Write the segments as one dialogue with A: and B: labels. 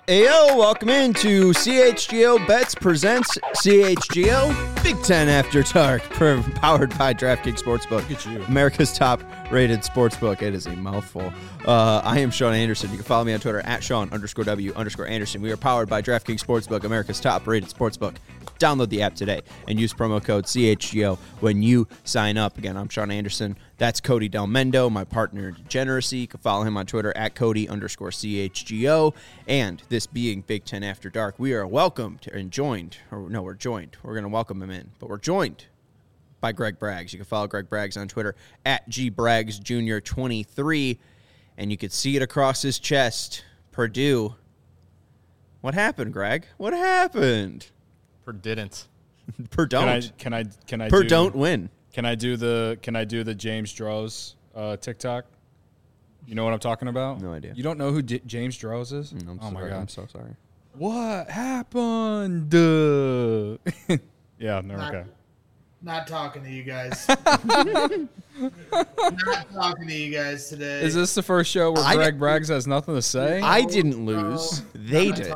A: Ayo, welcome into CHGO Bets presents CHGO Big Ten After Dark, powered by DraftKings Sportsbook.
B: Look at you.
A: America's top-rated sportsbook. It is a mouthful. I am Sean Anderson. You can follow me on Twitter at Sean_W_Anderson. We are powered by DraftKings Sportsbook, America's top-rated sportsbook. Download the app today and use promo code CHGO when you sign up. Again, I'm Sean Anderson. That's Cody Del Mendo, my partner in degeneracy. You can follow him on Twitter at Cody_CHGO. And this being Big Ten After Dark, we are welcomed and joined. We're going to welcome him in, but we're joined by Greg Braggs. You can follow Greg Braggs on Twitter at GBraggsJr23. And you can see it across his chest. Purdue. What happened, Greg? What happened?
B: Per didn't.
A: Per don't.
C: Can I
A: per don't win.
C: Can I do the James Droz TikTok? You know what I'm talking about?
A: No idea.
C: You don't know who James Droz is?
A: Oh my God. I'm so sorry.
C: What happened? Yeah, no, okay.
D: Not talking to you guys. Not talking to you guys today.
C: Is this the first show where Greg Braggs has nothing to say?
A: I didn't lose. They did.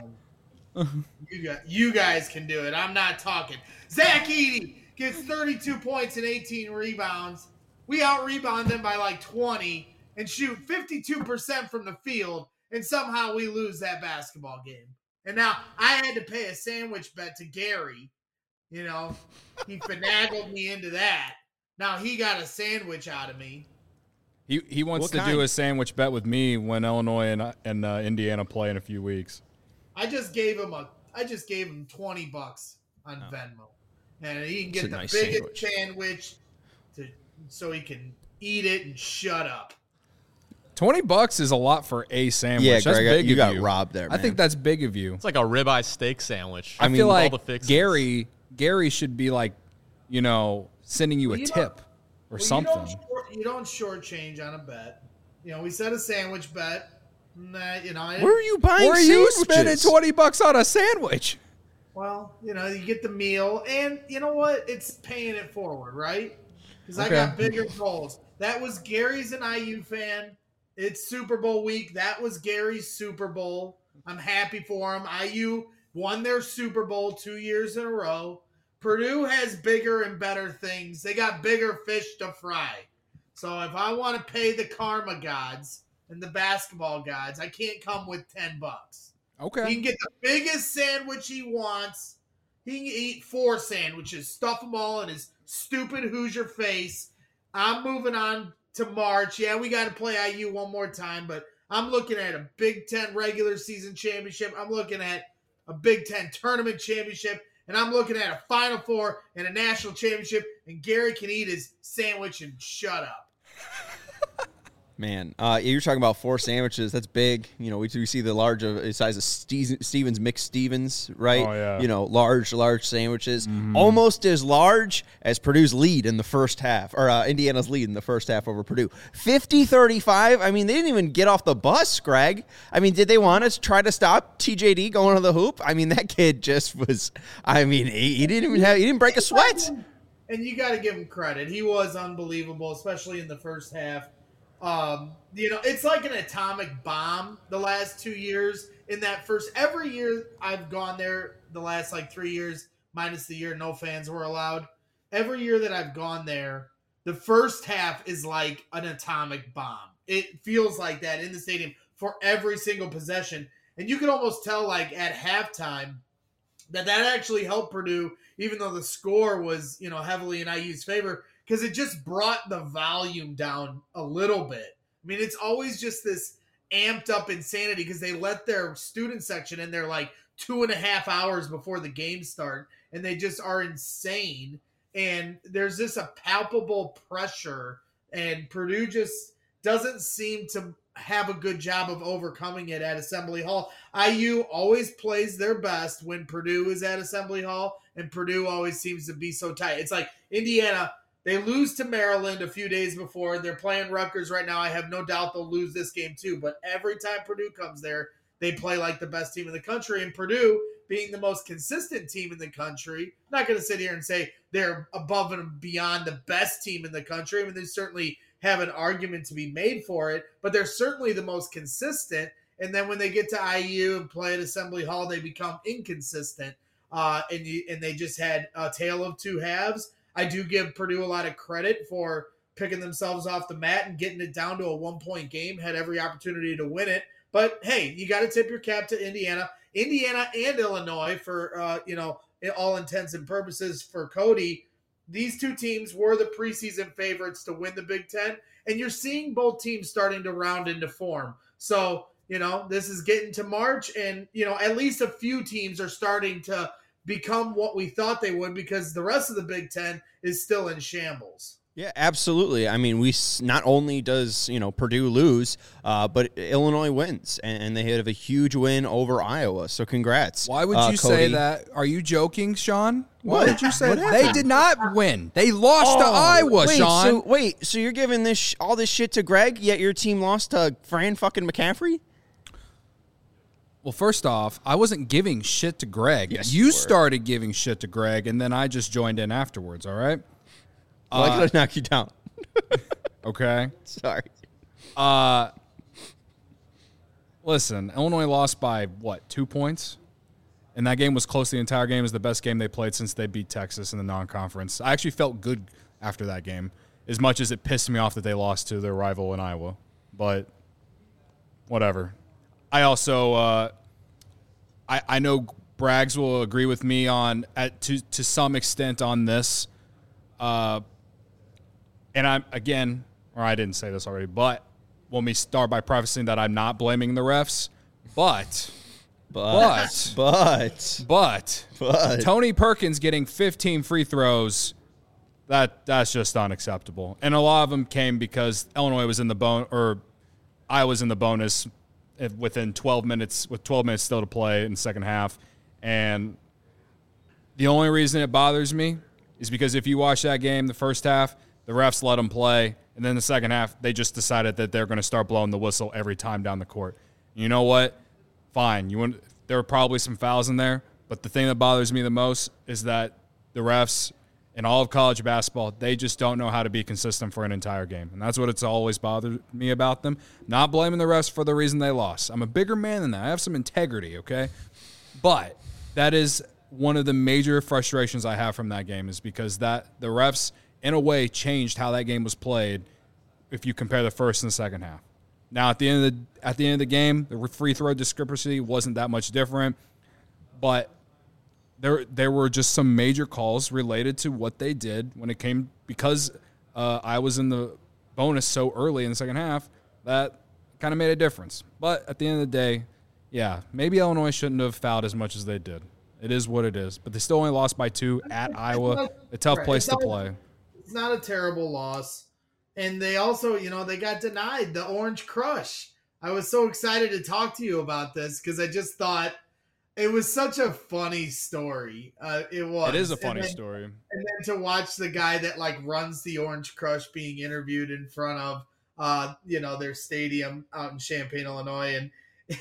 D: You guys can do it. I'm not talking. Zach Edey gets 32 points and 18 rebounds. We out-rebound them by like 20 and shoot 52% from the field, and somehow we lose that basketball game. And now I had to pay a sandwich bet to Gary. You know, he finagled me into that. Now he got a sandwich out of me.
C: He wants to do a sandwich bet with me when Illinois and Indiana play in a few weeks.
D: I just gave him $20 on Venmo, and he can get the biggest sandwich so he can eat it and shut up.
C: $20 is a lot for a sandwich.
A: Yeah,
C: that's
A: Greg,
C: big
A: you
C: of
A: got
C: you.
A: robbed there, man.
C: I think that's big of you.
B: It's like a ribeye steak sandwich.
C: I feel like
B: all the fixings.
C: Gary should be like, sending you a tip or something.
D: You don't shortchange on a bet. We said a sandwich bet. Nah,
A: where are you buying
C: Where are you spending $20 on a sandwich?
D: Well, you get the meal, and you know what? It's paying it forward, right? Because I got bigger goals. That was Gary's an IU fan. It's Super Bowl week. That was Gary's Super Bowl. I'm happy for him. IU won their Super Bowl 2 years in a row. Purdue has bigger and better things. They got bigger fish to fry. So if I want to pay the karma gods and the basketball gods, I can't come with $10.
C: Okay.
D: He can get the biggest sandwich he wants. He can eat 4 sandwiches, stuff them all in his stupid Hoosier face. I'm moving on to March. Yeah, we got to play IU one more time, but I'm looking at a Big Ten regular season championship. I'm looking at a Big Ten tournament championship, and I'm looking at a Final Four and a national championship, and Gary can eat his sandwich and shut up.
A: Man, you're talking about 4 sandwiches. That's big. We see the large size of Stevens McStevens, right?
C: Oh, yeah.
A: Large sandwiches. Mm-hmm. Almost as large as Purdue's lead in the first half, or Indiana's lead in the first half over Purdue. 50-35. I mean, they didn't even get off the bus, Greg. I mean, did they want to try to stop TJD going to the hoop? I mean, that kid just was, he didn't break a sweat.
D: And you got to give him credit. He was unbelievable, especially in the first half. It's like an atomic bomb the last 2 years. In that every year I've gone there, the last 3 years, minus the year no fans were allowed. Every year that I've gone there, the first half is like an atomic bomb. It feels like that in the stadium for every single possession. And you can almost tell at halftime that actually helped Purdue, even though the score was, heavily in IU's favor, because it just brought the volume down a little bit. I mean, it's always just this amped up insanity because they let their student section in there 2.5 hours before the game start, and they just are insane. And there's just a palpable pressure, and Purdue just doesn't seem to have a good job of overcoming it at Assembly Hall. IU always plays their best when Purdue is at Assembly Hall, and Purdue always seems to be so tight. It's like Indiana. They lose to Maryland a few days before. They're playing Rutgers right now. I have no doubt they'll lose this game too. But every time Purdue comes there, they play like the best team in the country. And Purdue, being the most consistent team in the country, I'm not going to sit here and say they're above and beyond the best team in the country. I mean, they certainly have an argument to be made for it. But they're certainly the most consistent. and then when they get to IU and play at Assembly Hall, they become inconsistent. And they just had a tale of two halves. I do give Purdue a lot of credit for picking themselves off the mat and getting it down to a 1-point game, had every opportunity to win it. But, hey, you got to tip your cap to Indiana. Indiana and Illinois for, all intents and purposes for Cody. These two teams were the preseason favorites to win the Big Ten, and you're seeing both teams starting to round into form. So, this is getting to March, and, at least a few teams are starting to become what we thought they would because the rest of the Big Ten is still in shambles.
A: Yeah, absolutely. I mean, not only does, Purdue lose, but Illinois wins, and they have a huge win over Iowa. So congrats.
E: Why would you say that? Are you joking, Sean? Why would you say
A: that?
E: They did not win. They lost to Iowa, Sean.
A: So you're giving all this shit to Greg, yet your team lost to Fran fucking McCaffrey?
E: Well, first off, I wasn't giving shit to Greg.
A: Yes,
E: you started giving shit to Greg, and then I just joined in afterwards, all right?
A: I gotta knock you down.
E: Okay.
A: Sorry.
E: Listen, Illinois lost by, 2 points? And that game was close the entire game. It was the best game they played since they beat Texas in the non-conference. I actually felt good after that game, as much as it pissed me off that they lost to their rival in Iowa. But whatever. I also I know Braggs will agree with me to some extent on this. And I didn't say this already, but let me start by prefacing that I'm not blaming the refs, but Tony Perkins getting 15 free throws, that's just unacceptable. And a lot of them came because Illinois was in the I was in the bonus within 12 minutes, with 12 minutes still to play in the second half. And the only reason it bothers me is because if you watch that game, the first half, the refs let them play, and then the second half, they just decided that they're going to start blowing the whistle every time down the court. You know what? Fine. There were probably some fouls in there, but the thing that bothers me the most is that the refs in all of college basketball, they just don't know how to be consistent for an entire game, and that's what it's always bothered me about them. Not blaming the refs for the reason they lost. I'm a bigger man than that. I have some integrity, okay? But that is one of the major frustrations I have from that game is because the refs, in a way, changed how that game was played if you compare the first and the second half. Now, at the end of the game, the free throw discrepancy wasn't that much different, but there were just some major calls related to what they did when it came, because I was in the bonus so early in the second half, that kind of made a difference. But at the end of the day, yeah, maybe Illinois shouldn't have fouled as much as they did. It is what it is. But they still only lost by 2 at Iowa, a tough place to play.
D: It's not a terrible loss. And they also, they got denied the Orange Crush. I was so excited to talk to you about this because I just thought it was such a funny story. It was.
E: It is a funny story.
D: And then to watch the guy that runs the Orange Crush being interviewed in front of, their stadium out in Champaign, Illinois, and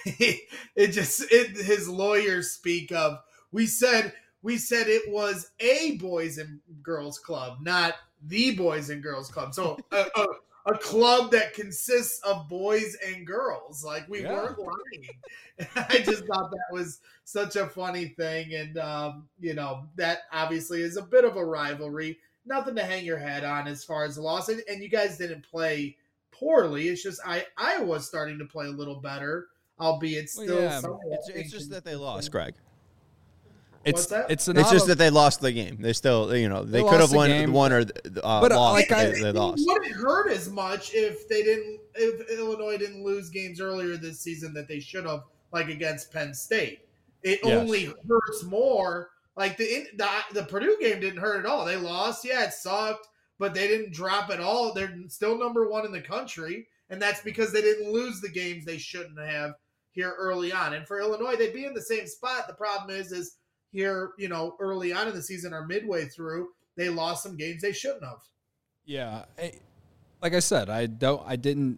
D: his lawyers speak of, we said it was a boys and girls club, not the Boys and Girls Club. So a club that consists of boys and girls. We weren't lying. I just thought that was such a funny thing. And, that obviously is a bit of a rivalry. Nothing to hang your head on as far as the loss. And you guys didn't play poorly. It's just Iowa's starting to play a little better, albeit still somewhat.
A: It's just that they lost, Greg.
D: What's that?
A: It's just that they lost the game. They still, they could have won or lost. They lost.
D: It wouldn't hurt as much if Illinois didn't lose games earlier this season that they should have, against Penn State. It only hurts more. The Purdue game didn't hurt at all. They lost. Yeah, it sucked, but they didn't drop at all. They're still number 1 in the country, and that's because they didn't lose the games they shouldn't have here early on. And for Illinois, they'd be in the same spot. The problem is here, early on in the season or midway through, they lost some games they shouldn't have.
E: Yeah. Like I said, I don't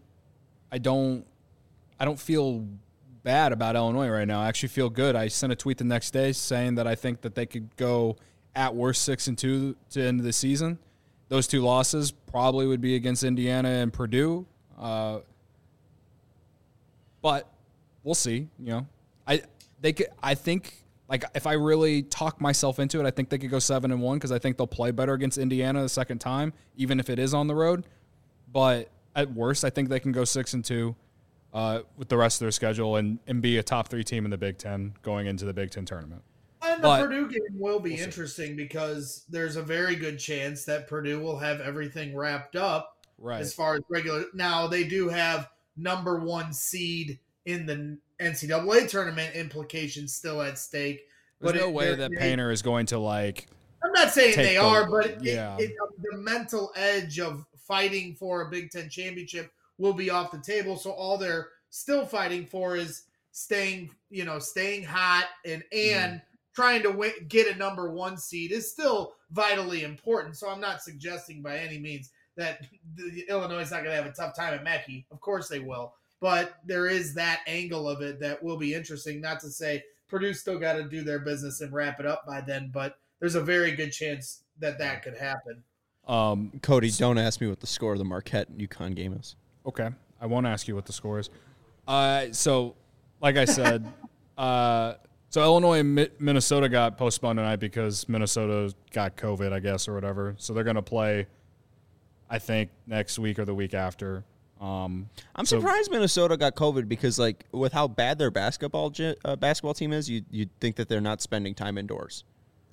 E: feel bad about Illinois right now. I actually feel good. I sent a tweet the next day saying that I think that they could go at worst 6-2 to end of the season. Those 2 losses probably would be against Indiana and Purdue. But we'll see. I think like if I really talk myself into it, I think they could go 7-1 because I think they'll play better against Indiana the second time, even if it is on the road. But at worst, I think they can go 6-2 with the rest of their schedule and be a top 3 team in the Big Ten going into the Big Ten tournament.
D: And the Purdue game will be interesting because there's a very good chance that Purdue will have everything wrapped up as far as regular. Now, they do have number 1 seed in the NCAA tournament implications still at stake.
E: There's no way that Painter is going to like.
D: I'm not saying they are, but the mental edge of fighting for a Big Ten championship will be off the table. So all they're still fighting for is staying hot and trying to get a number 1 seed is still vitally important. So I'm not suggesting by any means that Illinois is not going to have a tough time at Mackey. Of course they will. But there is that angle of it that will be interesting. Not to say Purdue still got to do their business and wrap it up by then, but there's a very good chance that could happen.
A: Cody, don't ask me what the score of the Marquette-UConn game is.
E: Okay. I won't ask you what the score is. So, like I said, so Illinois and Minnesota got postponed tonight because Minnesota got COVID, I guess, or whatever. So they're going to play, I think, next week or the week after.
A: I'm surprised Minnesota got COVID because, like, with how bad their basketball team is, you'd think that they're not spending time indoors.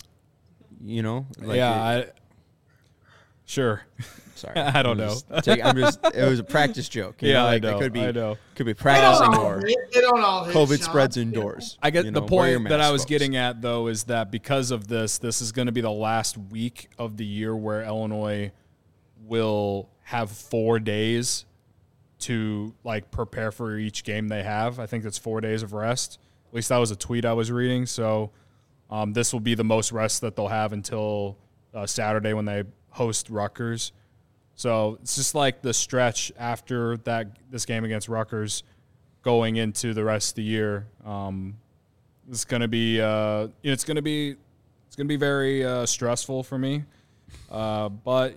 E: Sure.
A: Sorry,
E: I don't know.
A: It was a practice joke.
E: I know.
A: I
E: know.
A: Could be practicing more.
D: They don't all hit
A: COVID
D: shots.
A: spreads indoors.
E: I get the point that I was getting at, though, is that because of this is going to be the last week of the year where Illinois will have 4 days to like prepare for each game they have. I think it's 4 days of rest. At least that was a tweet I was reading. So this will be the most rest that they'll have until Saturday when they host Rutgers. So it's just like the stretch after this game against Rutgers going into the rest of the year. It's going to be it's going to be very stressful for me. But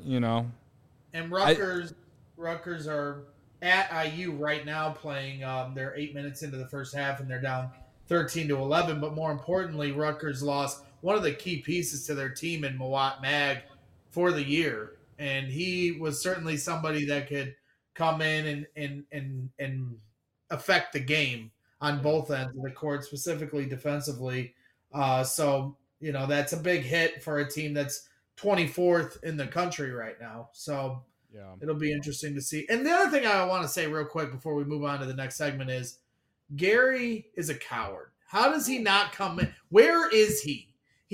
D: and Rutgers are at IU right now playing. They're 8 minutes into the first half and they're down 13-11. But more importantly, Rutgers lost one of the key pieces to their team in Mawot Mag for the year. And he was certainly somebody that could come in and affect the game on both ends of the court, specifically defensively. So that's a big hit for a team that's 24th in the country right now. So it'll be interesting to see. And the other thing I want to say real quick before we move on to the next segment is Gary is a coward. How does he not come in? Where is he?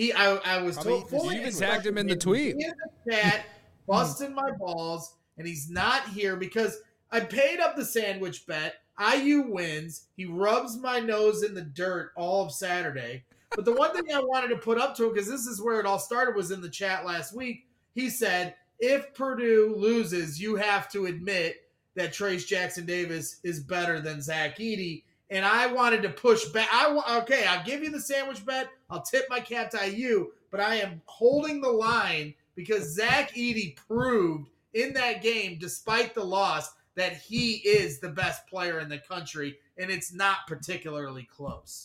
D: I was told.
E: You even tagged him in the tweet.
D: He in the chat, busting my balls, and he's not here because I paid up the sandwich bet. IU wins. He rubs my nose in the dirt all of Saturday. But the one thing I wanted to put up to him, because this is where it all started, was in the chat last week. He said, if Purdue loses, you have to admit that Trayce Jackson-Davis is better than Zach Edey. And I wanted to push back. Okay, I'll give you the sandwich bet. I'll tip my cap to IU. But I am holding the line because Zach Edey proved in that game, despite the loss, that he is the best player in the country. And it's not particularly close.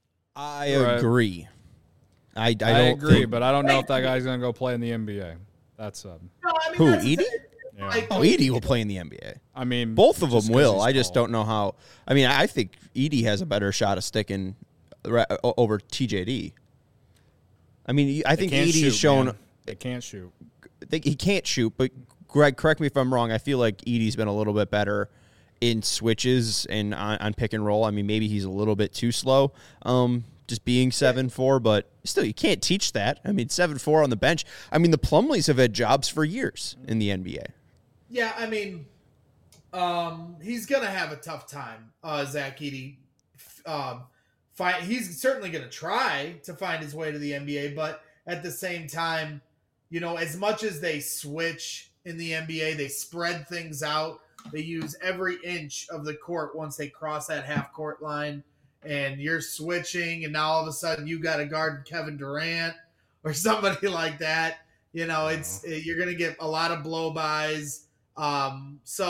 A: I agree. I don't
E: agree, but I don't know if that guy's going to go play in the NBA. That's
A: who, Edey?
E: Yeah.
A: Edey will play in the NBA.
E: I mean,
A: both of them will. I just don't know how. I mean, I think Edey has a better shot of sticking over TJD. I mean, I think Edey's shown.
E: They can't shoot.
A: He can't shoot, but Greg, correct me if I'm wrong. I feel like Edey's been a little bit better in switches and on pick and roll. I mean, maybe he's a little bit too slow. Just being 7'4", but still, you can't teach that. I mean, 7'4" on the bench. I mean, the Plumlees have had jobs for years in the NBA.
D: Yeah, I mean, he's going to have a tough time, Zach Edey. He's certainly going to try to find his way to the NBA, but at the same time, as much as they switch in the NBA, they spread things out. They use every inch of the court once they cross that half-court line. And you're switching, and now all of a sudden you got to guard Kevin Durant or somebody like that. You're going to get a lot of blow-bys. So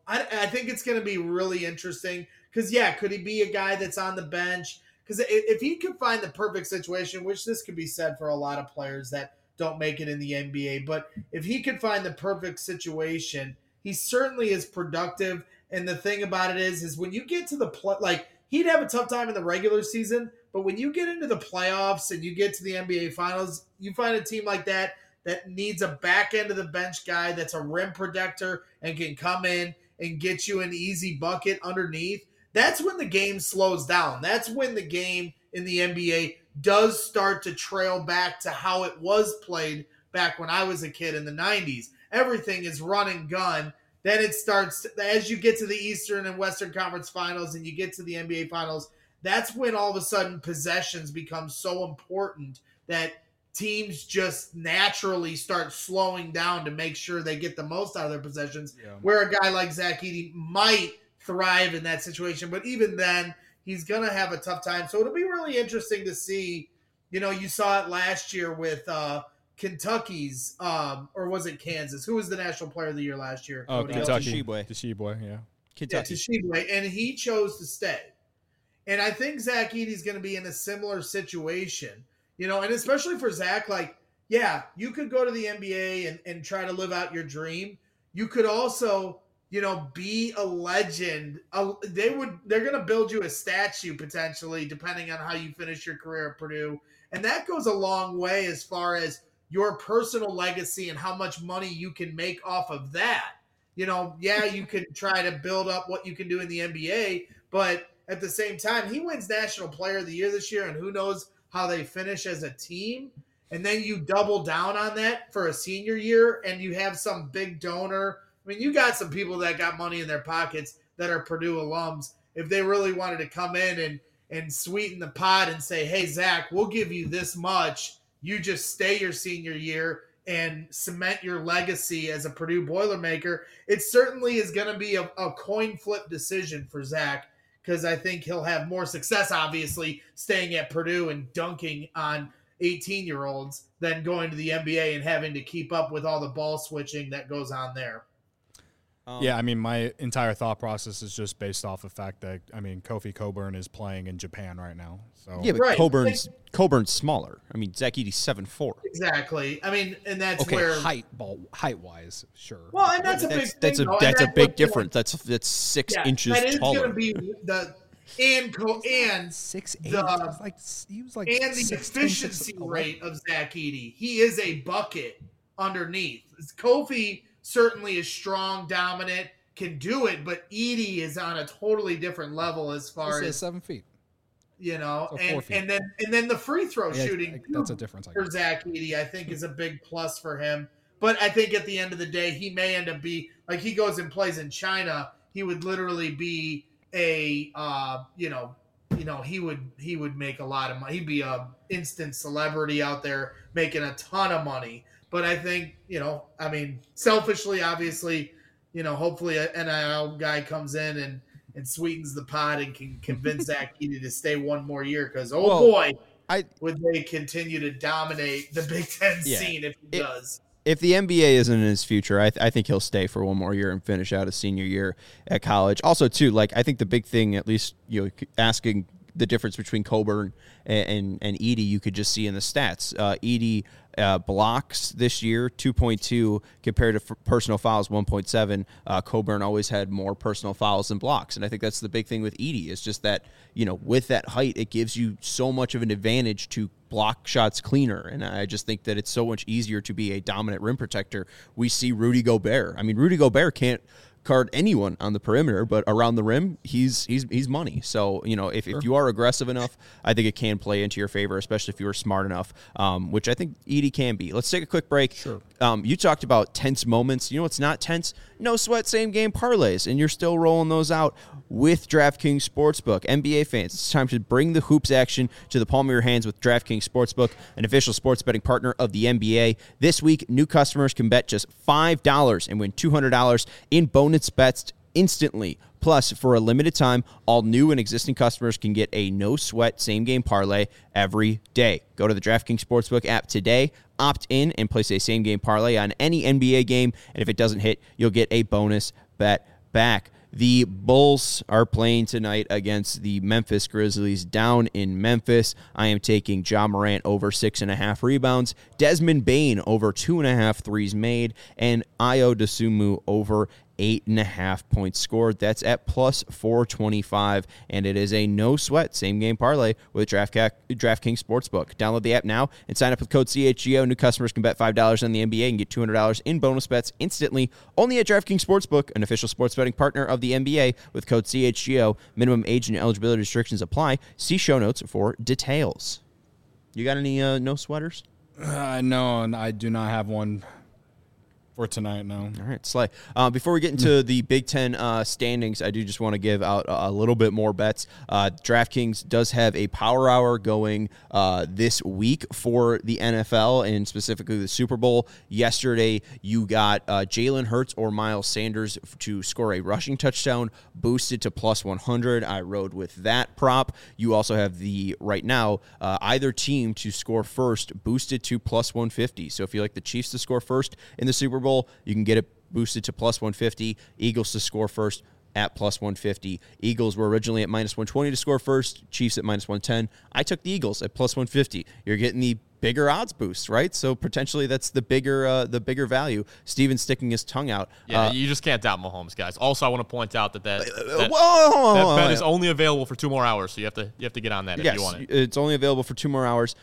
D: I think it's going to be really interesting because, yeah, could he be a guy that's on the bench? Because if he could find the perfect situation, which this could be said for a lot of players that don't make it in the NBA, but if he could find the perfect situation, he certainly is productive. And the thing about it is when you get to the like he'd have a tough time in the regular season, but when you get into the playoffs and you get to the NBA Finals, you find a team like that needs a back end of the bench guy that's a rim protector and can come in and get you an easy bucket underneath. That's when the game slows down. That's when the game in the NBA does start to trail back to how it was played back when I was a kid in the 90s. Everything is run and gun. Then it starts, as you get to the Eastern and Western Conference Finals and you get to the NBA Finals, that's when all of a sudden possessions become so important that teams just naturally start slowing down to make sure they get the most out of their possessions, where a guy like Zach Edey might thrive in that situation. But even then, he's going to have a tough time. So it'll be really interesting to see. You know, you saw it last year with Kentucky's, or was it Kansas? Who was the National Player of the Year last year?
E: Oh, Kentucky. Tshiebwe, yeah.
D: Kentucky. Yeah, Tshiebwe, and he chose to stay. And I think Zach Edey's going to be in a similar situation. You know, and especially for Zach, like, yeah, you could go to the NBA and try to live out your dream. You could also, you know, be a legend. They're going to build you a statue potentially, depending on how you finish your career at Purdue. And that goes a long way as far as your personal legacy and how much money you can make off of that. You know, yeah, you can try to build up what you can do in the NBA, but at the same time, he wins National Player of the Year this year, and who knows how they finish as a team. And then you double down on that for a senior year, and you have some big donor. I mean, you got some people that got money in their pockets that are Purdue alums. If they really wanted to come in and sweeten the pot and say, hey, Zach, we'll give you this much. You just stay your senior year and cement your legacy as a Purdue Boilermaker. It certainly is going to be a coin flip decision for Zach, because I think he'll have more success, obviously, staying at Purdue and dunking on 18-year-olds than going to the NBA and having to keep up with all the ball switching that goes on there.
E: Yeah, I mean, my entire thought process is just based off the fact that, I mean, Kofi Cockburn is playing in Japan right now. So
A: yeah, but right. Coburn's smaller. I mean, Zach Edey's 7'4".
D: Exactly. I mean, and that's where
E: height-wise, sure.
D: Well, and that's a big thing.
A: That's a big difference. That's 6 inches taller. That is going
D: to be and
E: 6'8". He was like
D: and the efficiency rate of Zach Edey. He is a bucket underneath. Kofi certainly is strong, dominant, can do it, but Edey is on a totally different level as far as
E: 7 feet.
D: You know, so and then the free throw shooting
E: that's a difference
D: for Zach Edey, I think, is a big plus for him. But I think at the end of the day, he may end up be like, he goes and plays in China, he would literally be a he would make a lot of money. He'd be a instant celebrity out there making a ton of money. But I think, you know, I mean, selfishly, obviously, you know, hopefully an NIL guy comes in and sweetens the pot and can convince Zach Edey to stay one more year, because, would they continue to dominate the Big Ten scene if he does.
A: If the NBA isn't in his future, I think he'll stay for one more year and finish out his senior year at college. Also, too, like, I think the big thing, at least, you know, asking the difference between Cockburn and Edey, you could just see in the stats. Edey blocks this year 2.2 compared to personal fouls 1.7. Cockburn always had more personal fouls than blocks, and I think that's the big thing with Edey. Is just that, you know, with that height, it gives you so much of an advantage to block shots cleaner, and I just think that it's so much easier to be a dominant rim protector. We see Rudy Gobert. I mean, Rudy Gobert can't guard anyone on the perimeter, but around the rim, he's money. So, you know, if you are aggressive enough, I think it can play into your favor, especially if you are smart enough, which I think Edey can be. Let's take a quick break.
E: Sure.
A: You talked about tense moments. You know what's not tense? No sweat, same game parlays, and you're still rolling those out with DraftKings Sportsbook. NBA fans, it's time to bring the hoops action to the palm of your hands with DraftKings Sportsbook, an official sports betting partner of the NBA. This week, new customers can bet just $5 and win $200 in bonus bets instantly. Plus, for a limited time, all new and existing customers can get a no-sweat same-game parlay every day. Go to the DraftKings Sportsbook app today, opt in, and place a same-game parlay on any NBA game, and if it doesn't hit, you'll get a bonus bet back. The Bulls are playing tonight against the Memphis Grizzlies down in Memphis. I am taking Ja Morant over 6.5 rebounds, Desmond Bane over 2.5 threes made, and Ayo Dosunmu over 8.5 points scored. That's at plus 425, and it is a no sweat same game parlay with DraftKings Sportsbook. Download the app now and sign up with code CHGO. New customers can bet $5 on the NBA and get $200 in bonus bets instantly. Only at DraftKings Sportsbook, an official sports betting partner of the NBA, with code CHGO. Minimum age and eligibility restrictions apply. See show notes for details. You got any no sweaters?
E: No, and I do not have one for tonight, no.
A: All right, Slay. Before we get into the Big Ten standings, I do just want to give out a little bit more bets. DraftKings does have a power hour going this week for the NFL and specifically the Super Bowl. Yesterday, you got Jalen Hurts or Miles Sanders to score a rushing touchdown, boosted to plus 100. I rode with that prop. You also have right now, either team to score first, boosted to plus 150. So if you like the Chiefs to score first in the Super Bowl, you can get it boosted to plus 150. Eagles to score first at plus 150. Eagles were originally at minus 120 to score first. Chiefs at minus 110. I took the Eagles at plus 150. You're getting the bigger odds boost, right? So potentially that's the bigger value. Steven's sticking his tongue out.
B: Yeah, you just can't doubt Mahomes, guys. Also, I want to point out that bet is only available for 2 more hours, so you have to get on that if you want it.
A: It's only available for 2 more hours.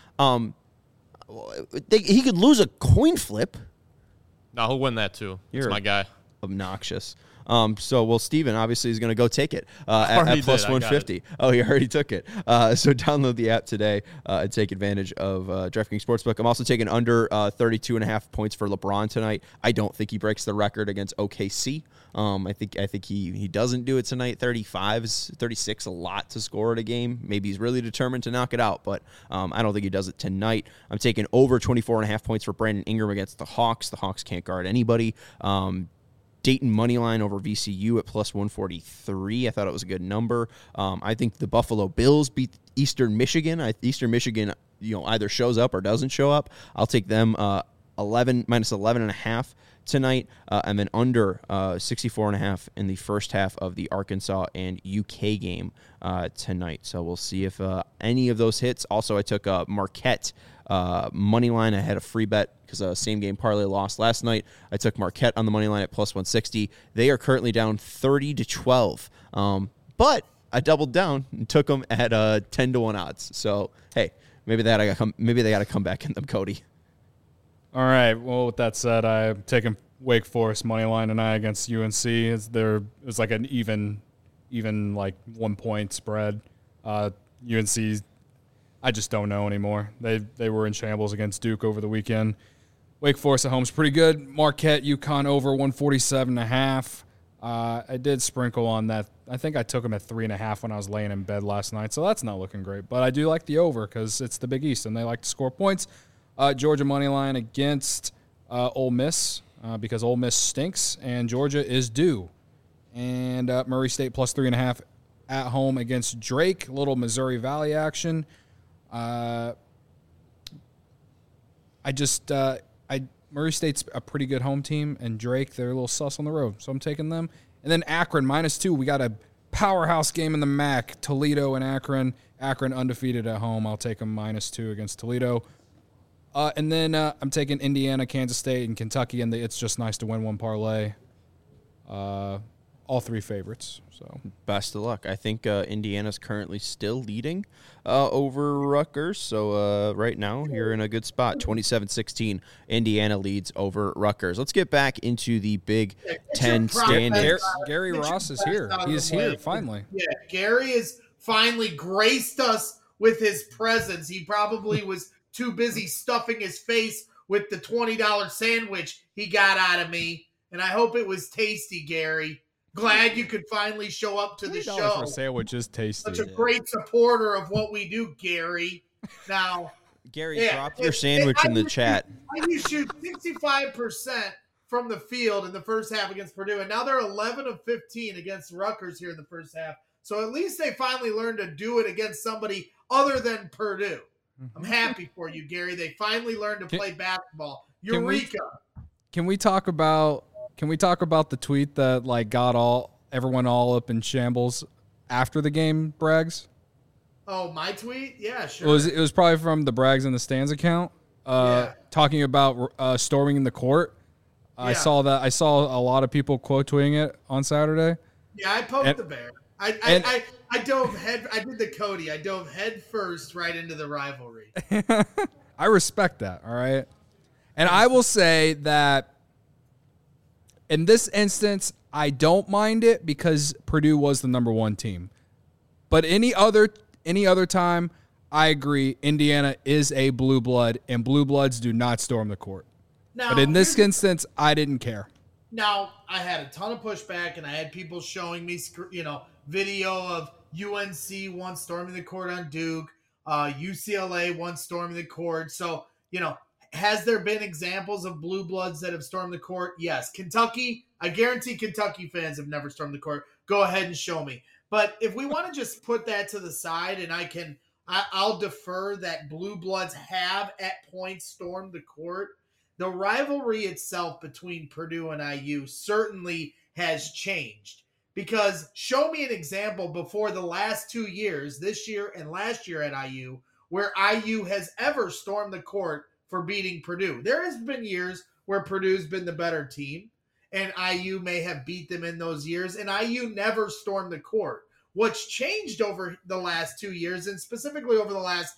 A: He could lose a coin flip.
B: No, he'll win that too. It's my guy.
A: Obnoxious. Steven obviously is going to go take it at plus 150. Oh, he already took it. So download the app today and take advantage of DraftKings Sportsbook. I'm also taking under 32.5 points for LeBron tonight. I don't think he breaks the record against OKC. I think he doesn't do it tonight. 36 a lot to score at a game. Maybe he's really determined to knock it out, but I don't think he does it tonight. I'm taking over 24.5 points for Brandon Ingram against the Hawks. The Hawks can't guard anybody. Dayton moneyline over VCU at plus 143. I thought it was a good number. I think the Buffalo Bills beat Eastern Michigan. Eastern Michigan, either shows up or doesn't show up. I'll take them minus 11.5 tonight, and then under 64.5 in the first half of the Arkansas and UK game tonight. So we'll see if any of those hits. Also, I took Marquette money line. I had a free bet because same game parlay lost last night. I took Marquette on the money line at plus 160. They are currently down 30-12, but I doubled down and took them at 10-1 odds. So hey, maybe they got to come back in them, Cody.
E: All right. Well, with that said, I'm taking Wake Forest money line tonight against UNC. It was like an even like 1 point spread. UNC, I just don't know anymore. They were in shambles against Duke over the weekend. Wake Forest at home is pretty good. Marquette, UConn over 147.5. I did sprinkle on that. I think I took them at 3.5 when I was laying in bed last night, so that's not looking great. But I do like the over because it's the Big East and they like to score points. Georgia money line against Ole Miss because Ole Miss stinks and Georgia is due. And Murray State plus 3.5 at home against Drake. Little Missouri Valley action. Murray State's a pretty good home team, and Drake, they're a little sus on the road, so I'm taking them. And then Akron, -2. We got a powerhouse game in the MAC, Toledo and Akron. Akron undefeated at home. I'll take them -2 against Toledo. And then I'm taking Indiana, Kansas State, and Kentucky, and It's Just Nice to Win One parlay. All 3 favorites. So
A: best of luck. I think Indiana's currently still leading over Rutgers. So right now you're in a good spot. 27-16. Indiana leads over Rutgers. Let's get back into the Big Ten standings.
E: Gary Ross is here. He's here finally.
D: Yeah, Gary has finally graced us with his presence. He probably was too busy stuffing his face with the $20 sandwich he got out of me. And I hope it was tasty, Gary. Glad you could finally show up to the show.
E: For a sandwich is tasty.
D: Such a great supporter of what we do, Gary. Now,
A: Gary, drop your sandwich in the chat.
D: You shoot 65% from the field in the first half against Purdue, and now they're 11 of 15 against Rutgers here in the first half. So at least they finally learned to do it against somebody other than Purdue. I'm happy for you, Gary. They finally learned to play basketball. Eureka!
E: Can we talk about the tweet that got everyone all up in shambles after the game, Braggs?
D: Oh, my tweet? Yeah, sure.
E: It was probably from the Braggs in the Stands account, talking about storming the court. Yeah. I saw that. I saw a lot of people quote tweeting it on Saturday.
D: Yeah, I poked the bear. I dove head. I did the Cody. I dove head first right into the rivalry.
E: I respect that. All right, and I will say that in this instance, I don't mind it because Purdue was the number 1 team. But any other time, I agree. Indiana is a blue blood, and blue bloods do not storm the court. Now, but in this instance, I didn't care.
D: Now, I had a ton of pushback, and I had people showing me, video of UNC once storming the court on Duke, UCLA once storming the court. So, has there been examples of blue bloods that have stormed the court? Yes. Kentucky, I guarantee Kentucky fans have never stormed the court. Go ahead and show me. But if we want to just put that to the side, and I'll defer that blue bloods have at points stormed the court. The rivalry itself between Purdue and IU certainly has changed, because show me an example before the last 2 years, this year and last year at IU, where IU has ever stormed the court for beating Purdue. There has been years where Purdue's been the better team, and IU may have beat them in those years, and IU never stormed the court. What's changed over the last 2 years, and specifically over the last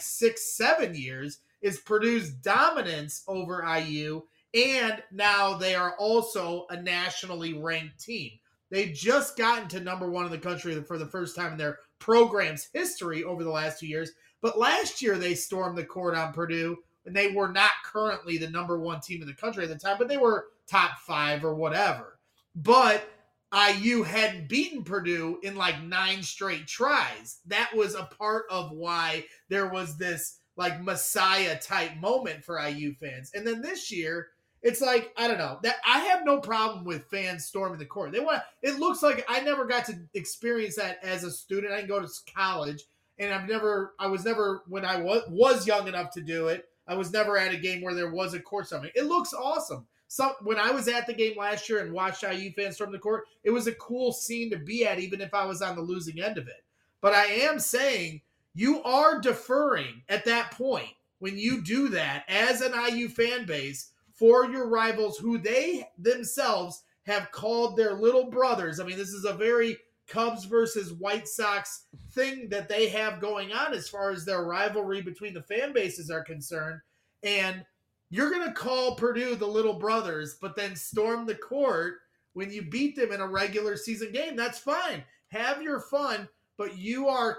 D: 6-7 years, is Purdue's dominance over IU, and now they are also a nationally ranked team. They've just gotten to number 1 in the country for the first time in their program's history over the last 2 years. But last year they stormed the court on Purdue, and they were not currently the number 1 team in the country at the time, but they were top 5 or whatever. But IU hadn't beaten Purdue in 9 straight tries. That was a part of why there was this Messiah type moment for IU fans. And then this year, it's I don't know, that I have no problem with fans storming the court. It looks like I never got to experience that as a student. I didn't go to college, and I was never, when I was young enough to do it, I was never at a game where there was a court storming. It looks awesome. So when I was at the game last year and watched IU fans storm the court, it was a cool scene to be at, even if I was on the losing end of it. But I am saying, you are deferring at that point when you do that as an IU fan base for your rivals who they themselves have called their little brothers. I mean, this is a very Cubs versus White Sox thing that they have going on as far as their rivalry between the fan bases are concerned. And you're going to call Purdue the little brothers, but then storm the court when you beat them in a regular season game. That's fine. Have your fun. But you are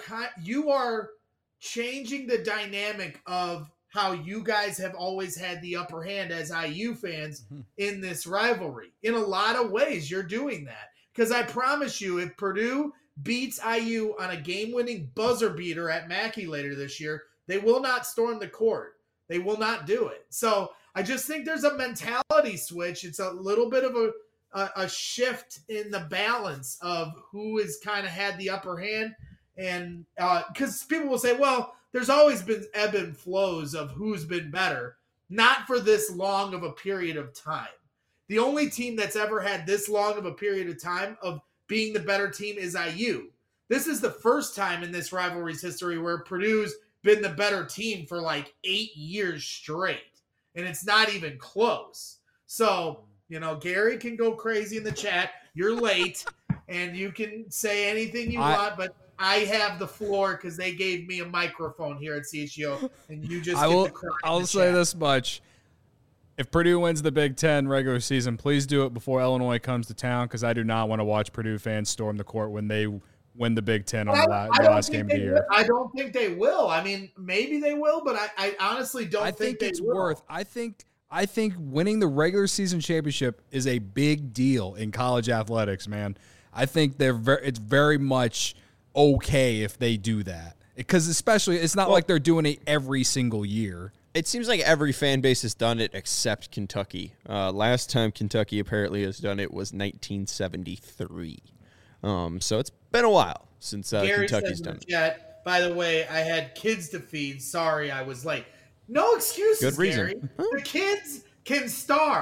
D: changing the dynamic of how you guys have always had the upper hand as IU fans in this rivalry. In a lot of ways, you're doing that. Because I promise you, if Purdue beats IU on a game-winning buzzer beater at Mackey later this year, they will not storm the court. They will not do it. So I just think there's a mentality switch. It's a little bit of a shift in the balance of who has kind of had the upper hand. And because people will say, well, there's always been ebb and flows of who's been better, not for this long of a period of time. The only team that's ever had this long of a period of time of being the better team is IU. This is the first time in this rivalry's history where Purdue's been the better team for 8 years straight. And it's not even close. So, Gary can go crazy in the chat. You're late, and you can say anything you want, but I have the floor because they gave me a microphone here at CHGO, and you just
E: I'll say this much. If Purdue wins the Big Ten regular season, please do it before Illinois comes to town, because I do not want to watch Purdue fans storm the court when they win the Big Ten on the last game of the year.
D: I don't think they will. I mean, maybe they will, but I honestly don't think they will.
E: I think winning the regular season championship is a big deal in college athletics, man. I think it's very much okay if they do that, because especially it's not like they're doing it every single year.
A: It seems like every fan base has done it except Kentucky. Last time Kentucky apparently has done it was 1973. So it's been a while since Kentucky's done it.
D: By the way, I had kids to feed. Sorry, I was late. No excuses,
A: Good reason.
D: Gary. The kids can starve.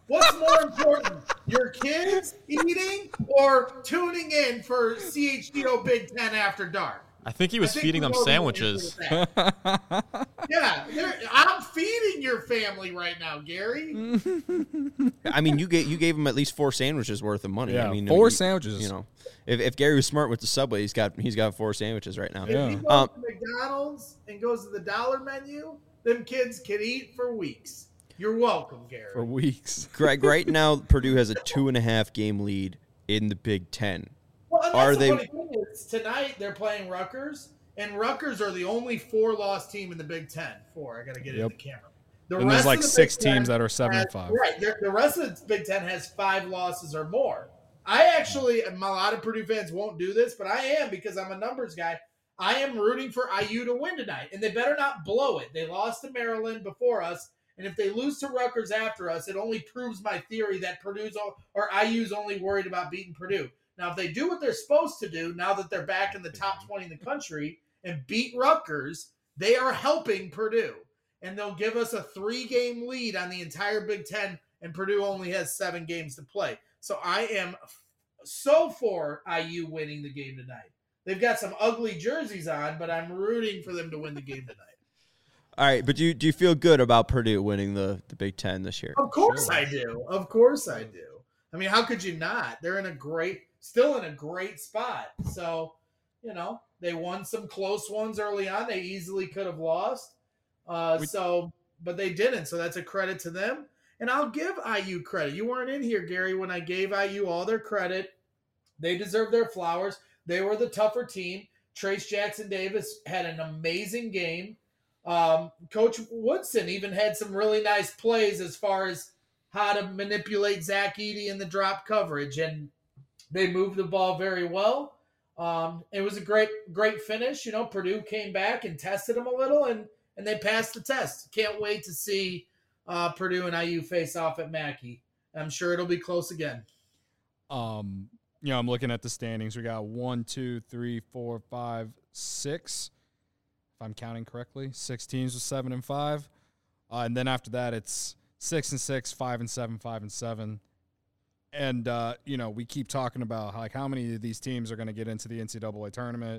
D: What's more important, your kids eating or tuning in for CHGO Big Ten After Dark?
B: I think he was feeding them sandwiches.
D: Yeah, I'm feeding your family right now, Gary.
A: I mean, you gave him at least 4 sandwiches worth of money.
E: Yeah,
A: I mean,
E: 4 sandwiches.
A: You know, if Gary was smart with the Subway, he's got 4 sandwiches right now.
D: If he goes to McDonald's and goes to the dollar menu, them kids can eat for weeks. You're welcome, Gary.
E: For weeks.
A: Greg, right now, Purdue has a 2.5 game lead in the Big Ten.
D: Well, and that's the funny thing is, tonight they're playing Rutgers, and Rutgers are the only 4-loss team in the Big Ten. I got to get it in the camera.
E: And there's like 6 teams that are 7-5.
D: Right. The rest of the Big Ten has 5 losses or more. I actually, a lot of Purdue fans won't do this, but I am because I'm a numbers guy. I am rooting for IU to win tonight, and they better not blow it. They lost to Maryland before us, and if they lose to Rutgers after us, it only proves my theory that IU's only worried about beating Purdue. Now, if they do what they're supposed to do, now that they're back in the top 20 in the country and beat Rutgers, they are helping Purdue. And they'll give us a 3-game lead on the entire Big Ten, and Purdue only has 7 games to play. So I am so for IU winning the game tonight. They've got some ugly jerseys on, but I'm rooting for them to win the game tonight.
A: All right, but do you feel good about Purdue winning the Big Ten this year?
D: Of course I do. Of course I do. I mean, how could you not? They're still in a great spot. So, they won some close ones early on. They easily could have lost. But they didn't. So that's a credit to them. And I'll give IU credit. You weren't in here, Gary, when I gave IU all their credit. They deserve their flowers. They were the tougher team. Trace Jackson-Davis had an amazing game. Coach Woodson even had some really nice plays as far as how to manipulate Zach Edey in the drop coverage. And they moved the ball very well. It was a great finish. Purdue came back and tested them a little, and they passed the test. Can't wait to see Purdue and IU face off at Mackey. I'm sure it'll be close again.
E: I'm looking at the standings. We got 1, 2, 3, 4, 5, 6. If I'm counting correctly, 6 teams with 7 and 5. And then after that, it's 6 and 6, 5 and 7, 5 and 7. And, we keep talking about how many of these teams are going to get into the NCAA tournament.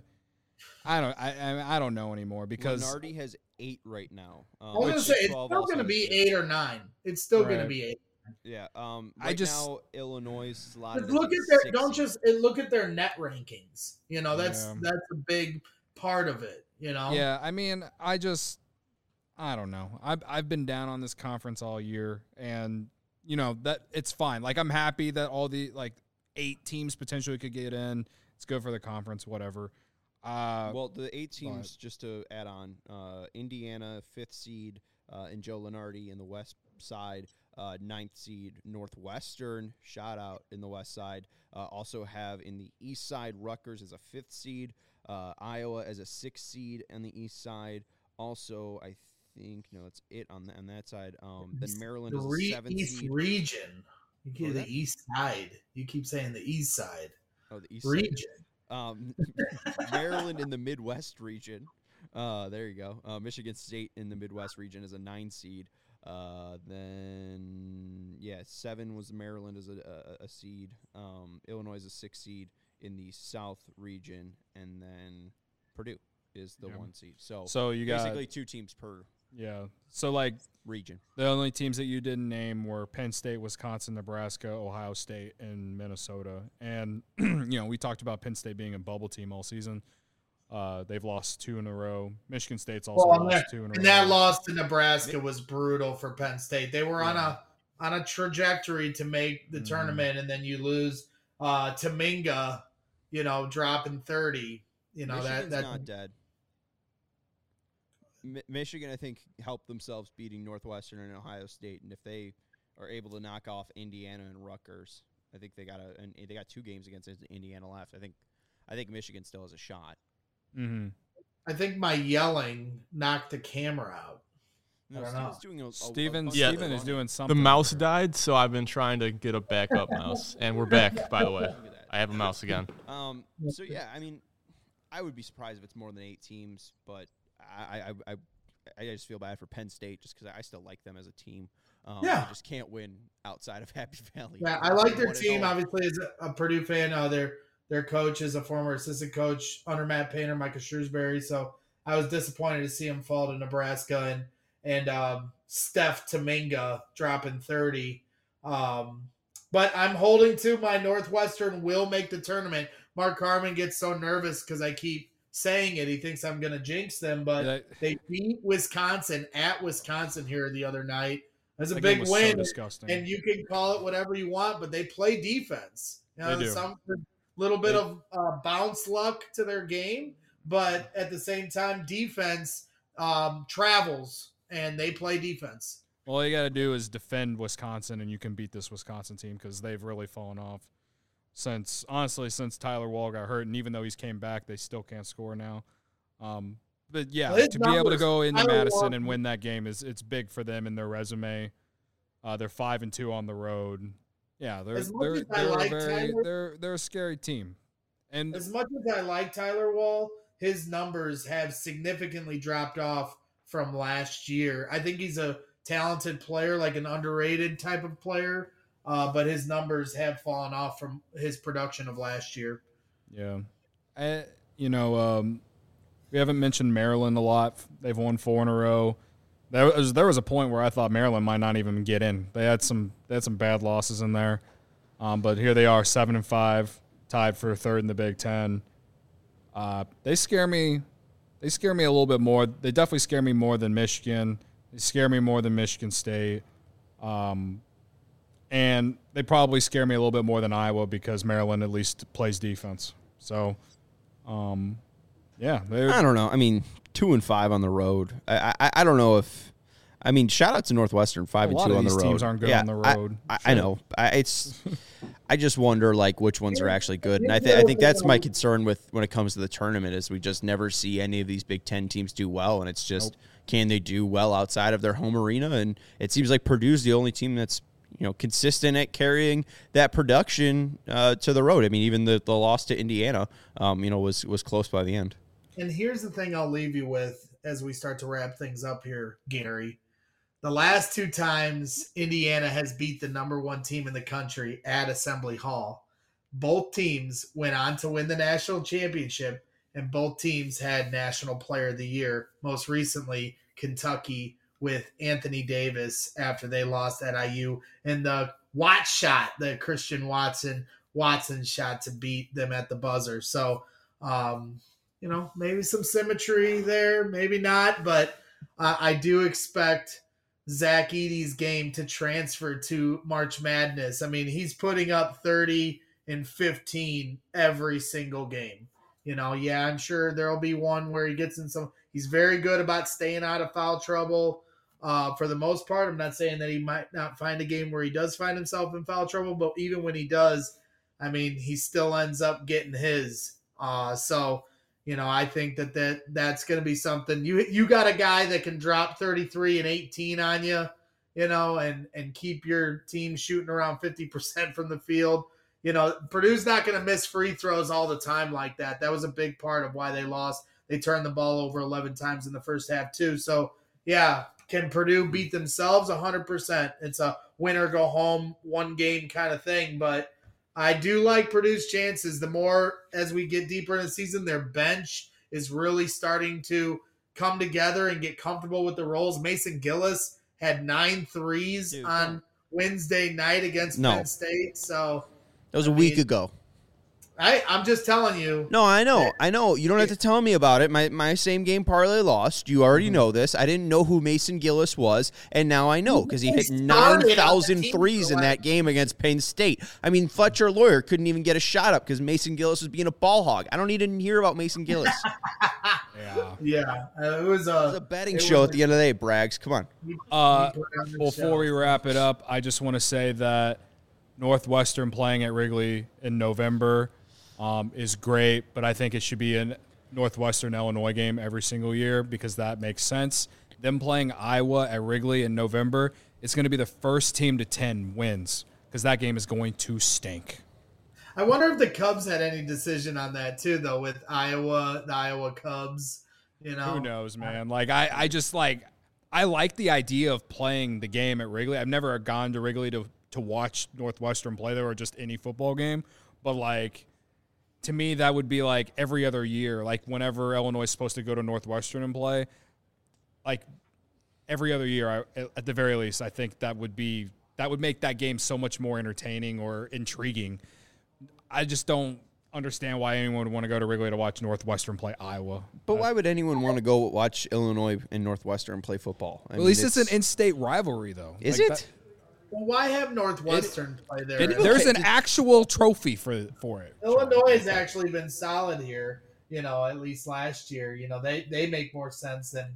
E: I don't know anymore because
A: Lenardi has 8 right now.
D: I was going to say it's still going to be 8 or 9. It's still going to be 8.
A: Yeah. Now Illinois is slotted.
D: Look at their net rankings. That's a big part of it.
E: Yeah. I mean, I don't know. I've been down on this conference all year, and that it's fine. I'm happy that all the 8 teams potentially could get in. It's good for the conference, whatever.
A: Well, the 8 teams, just to add on, Indiana, 5th seed, and Joe Lenardi in the west side, 9th seed Northwestern, shout out in the west side. Also have in the east side, Rutgers as a 5th seed, Iowa as a 6th seed on the east side. Also, I think, that's it on that side. Then Maryland is a 7th
D: East
A: seed.
D: Region. You get the east side. You keep saying the east side.
A: Oh, the east
D: region.
A: Side. Maryland in the Midwest region. There you go. Michigan State in the Midwest region is a 9 seed. Then 7 was Maryland as a seed. Illinois is a 6 seed in the South region, and then Purdue is the 1 seed. So
E: you got
A: basically 2 teams per.
E: Yeah. So
A: region.
E: The only teams that you didn't name were Penn State, Wisconsin, Nebraska, Ohio State, and Minnesota. And we talked about Penn State being a bubble team all season. They've lost 2 in a row. Michigan State's also lost 2 in a row. And
D: that loss to Nebraska was brutal for Penn State. They were on a trajectory to make the tournament, and then you lose to Minga, dropping 30.
A: Michigan's not dead. Michigan, I think, helped themselves beating Northwestern and Ohio State, and if they are able to knock off Indiana and Rutgers, I think they got 2 games against Indiana left. I think Michigan still has a shot.
E: Mm-hmm.
D: I think my yelling knocked the camera out.
A: No,
E: Steven is doing something.
B: The mouse died, so I've been trying to get a backup mouse, and we're back. By the way, I have a mouse again.
A: I would be surprised if it's more than 8 teams, but I just feel bad for Penn State just because I still like them as a team. They just can't win outside of Happy Valley.
D: Yeah, I like their team. Obviously, as a Purdue fan, their coach is a former assistant coach under Matt Painter, Micah Shrewsbury. So I was disappointed to see him fall to Nebraska and Steph Tominga dropping 30. But I'm holding to my Northwestern will make the tournament. Mark Harmon gets so nervous because I keep saying it. He thinks I'm going to jinx them, but they beat Wisconsin at Wisconsin here the other night. That's a big win, and you can call it whatever you want, but they play defense.
E: They do.
D: Some little bit of bounce luck to their game, but at the same time, defense travels, and they play defense.
E: All you got to do is defend Wisconsin, and you can beat this Wisconsin team because they've really fallen off since Tyler Wall got hurt. And even though he's came back, they still can't score now. But yeah, to be able to go into Madison and win that game it's big for them in their resume. They're 5-2 on the road. Yeah, they're a scary team. And
D: as much as I like Tyler Wall, his numbers have significantly dropped off from last year. I think he's a talented player, like an underrated type of player, but his numbers have fallen off from his production of last year.
E: Yeah. We haven't mentioned Maryland a lot. They've won 4 in a row. There was a point where I thought Maryland might not even get in. They had some bad losses in there. But here they are, 7-5, tied for third in the Big Ten. They scare me a little bit more. They definitely scare me more than Michigan. They scare me more than Michigan State. And they probably scare me a little bit more than Iowa because Maryland at least plays defense. So, yeah.
A: I don't know. I mean, 2-5 on the road. I don't know if – I mean, shout out to Northwestern, 5-2 on the road. A lot of these
E: teams aren't good on the road.
A: I know. I just wonder, like, which ones are actually good. And I think that's my concern when it comes to the tournament is we just never see any of these Big Ten teams do well. And it's just, can they do well outside of their home arena? And it seems like Purdue's the only team that's, consistent at carrying that production to the road. I mean, even the loss to Indiana, was close by the end.
D: And here's the thing I'll leave you with as we start to wrap things up here, Gary. The last 2 times Indiana has beat the number 1 team in the country at Assembly Hall, both teams went on to win the national championship, and both teams had National Player of the Year. Most recently, Kentucky with Anthony Davis after they lost at IU, and the Watts shot, the Christian Watson shot to beat them at the buzzer. So, maybe some symmetry there, maybe not, but I do expect Zach Edey's game to transfer to March Madness. I mean, he's putting up 30 and 15 every single game. I'm sure there'll be one where he gets in some – he's very good about staying out of foul trouble for the most part. I'm not saying that he might not find a game where he does find himself in foul trouble, but even when he does, I mean, he still ends up getting his. I think that's going to be something. You got a guy that can drop 33 and 18 on you, and keep your team shooting around 50% from the field. Purdue's not going to miss free throws all the time like that. That was a big part of why they lost. They turned the ball over 11 times in the first half too. So, yeah, can Purdue beat themselves? 100%. It's a win or go home, one game kind of thing, but I do like Purdue's chances. The more as we get deeper in the season, their bench is really starting to come together and get comfortable with the roles. Mason Gillis had 9 threes on Wednesday night against Penn State. So
A: that was a week ago.
D: I'm just telling you.
A: No, I know. You don't have to tell me about it. My same game parlay lost. You already know this. I didn't know who Mason Gillis was, and now I know because he hit 9,000 threes in that game against Penn State. I mean, Fletcher Lawyer couldn't even get a shot up because Mason Gillis was being a ball hog. I don't need to hear about Mason Gillis.
D: Yeah. It was a
A: betting show at the end of the day, Braggs. Come on.
E: Before we wrap it up, I just want to say that Northwestern playing at Wrigley in November is great, but I think it should be a Northwestern-Illinois game every single year because that makes sense. Them playing Iowa at Wrigley in November, it's going to be the first team to 10 wins because that game is going to stink.
D: I wonder if the Cubs had any decision on that too, though, with the Iowa Cubs.
E: Who knows, man? I I like the idea of playing the game at Wrigley. I've never gone to Wrigley to watch Northwestern play there or just any football game. But, like, to me, that would be like every other year. Like, whenever Illinois is supposed to go to Northwestern and play, like, every other year, at the very least, I think that would make that game so much more entertaining or intriguing. I just don't understand why anyone would want to go to Wrigley to watch Northwestern play Iowa.
A: But why would anyone want to go watch Illinois and Northwestern play football?
E: At least it's an in-state rivalry, though.
A: Is it?
D: Well, why have Northwestern play there?
E: There's an actual trophy for it.
D: Illinois has actually been solid here. At least last year, they make more sense than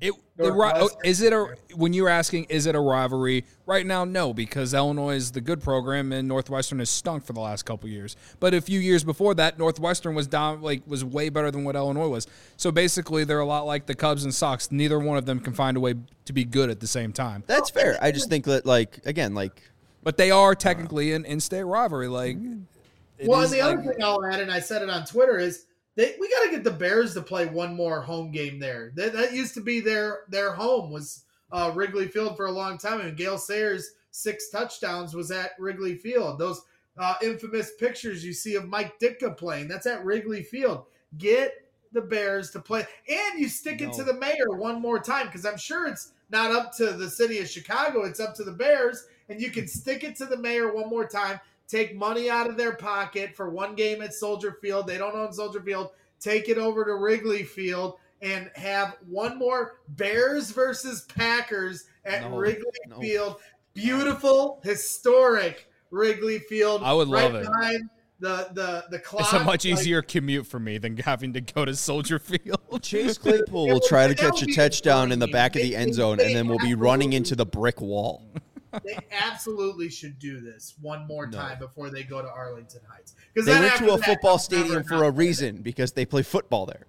E: when you were asking, is it a rivalry? Right now, no, because Illinois is the good program and Northwestern has stunk for the last couple of years. But a few years before that, Northwestern was was way better than what Illinois was. So basically, they're a lot like the Cubs and Sox. Neither one of them can find a way to be good at the same time.
A: That's fair. I just think that,
E: but they are technically an in-state rivalry.
D: And the other thing I'll add, and I said it on Twitter, is we got to get the Bears to play one more home game there. That used to be their home was Wrigley Field for a long time. And Gale Sayers' 6 touchdowns was at Wrigley Field. Those infamous pictures you see of Mike Ditka playing, that's at Wrigley Field. Get the Bears to play. And you stick it to the mayor one more time, because I'm sure it's not up to the city of Chicago. It's up to the Bears. And you can stick it to the mayor one more time. Take money out of their pocket for one game at Soldier Field. They don't own Soldier Field. Take it over to Wrigley Field and have one more Bears versus Packers at Wrigley Field. Beautiful, historic Wrigley Field.
E: I would love it.
D: Behind the clock.
E: It's a much easier commute for me than having to go to Soldier Field.
A: Chase Claypool will try to catch a touchdown in the back of the end zone, and then we'll be running into the brick wall.
D: They absolutely should do this one more time before they go to Arlington Heights.
A: They went to a football stadium for a reason, because they play football there.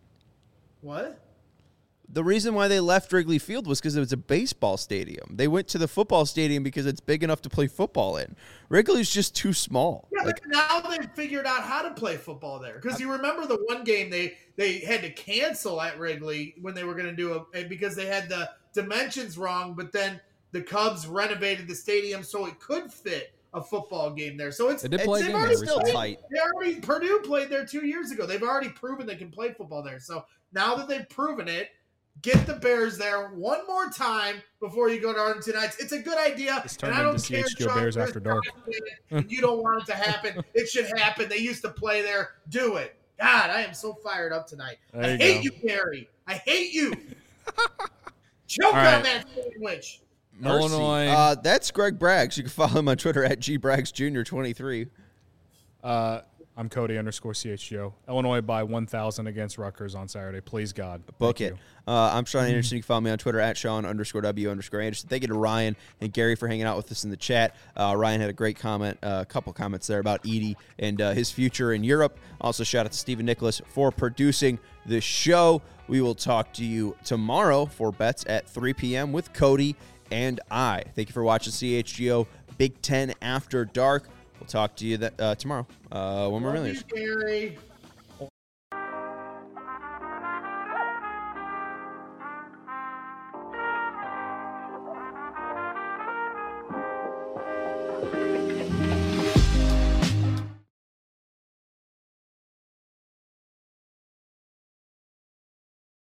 D: What?
A: The reason why they left Wrigley Field was because it was a baseball stadium. They went to the football stadium because it's big enough to play football in. Wrigley's just too small.
D: Yeah, but now they've figured out how to play football there. Because you remember the one game they had to cancel at Wrigley when they were going to do because they had the dimensions wrong, but then the Cubs renovated the stadium so it could fit a football game there. So it's
A: still tight.
D: Purdue played there 2 years ago. They've already proven they can play football there. So now that they've proven it, get the Bears there one more time before you go to Arlington Heights. It's a good idea.
E: It's turned into CHGO Bears After Dark.
D: You don't want it to happen. It should happen. They used to play there. Do it. God, I am so fired up tonight. I hate you, Gary. I hate you. Choke on that sandwich.
A: Mercy.
E: Illinois.
A: That's Greg Braggs. You can follow him on Twitter at gbraggsjr23.
E: I'm Cody _CHGO. Illinois by 1,000 against Rutgers on Saturday. Please, God.
A: Book it. I'm Sean Anderson. You can follow me on Twitter at Sean_W_Anderson. Thank you to Ryan and Gary for hanging out with us in the chat. Ryan had a great comment, a couple comments there about Edey and his future in Europe. Also, shout out to Stephen Nicholas for producing the show. We will talk to you tomorrow for bets at 3 p.m. with Cody and I. Thank you for watching CHGO Big Ten After Dark. We'll talk to you tomorrow. One more million.
D: Gary.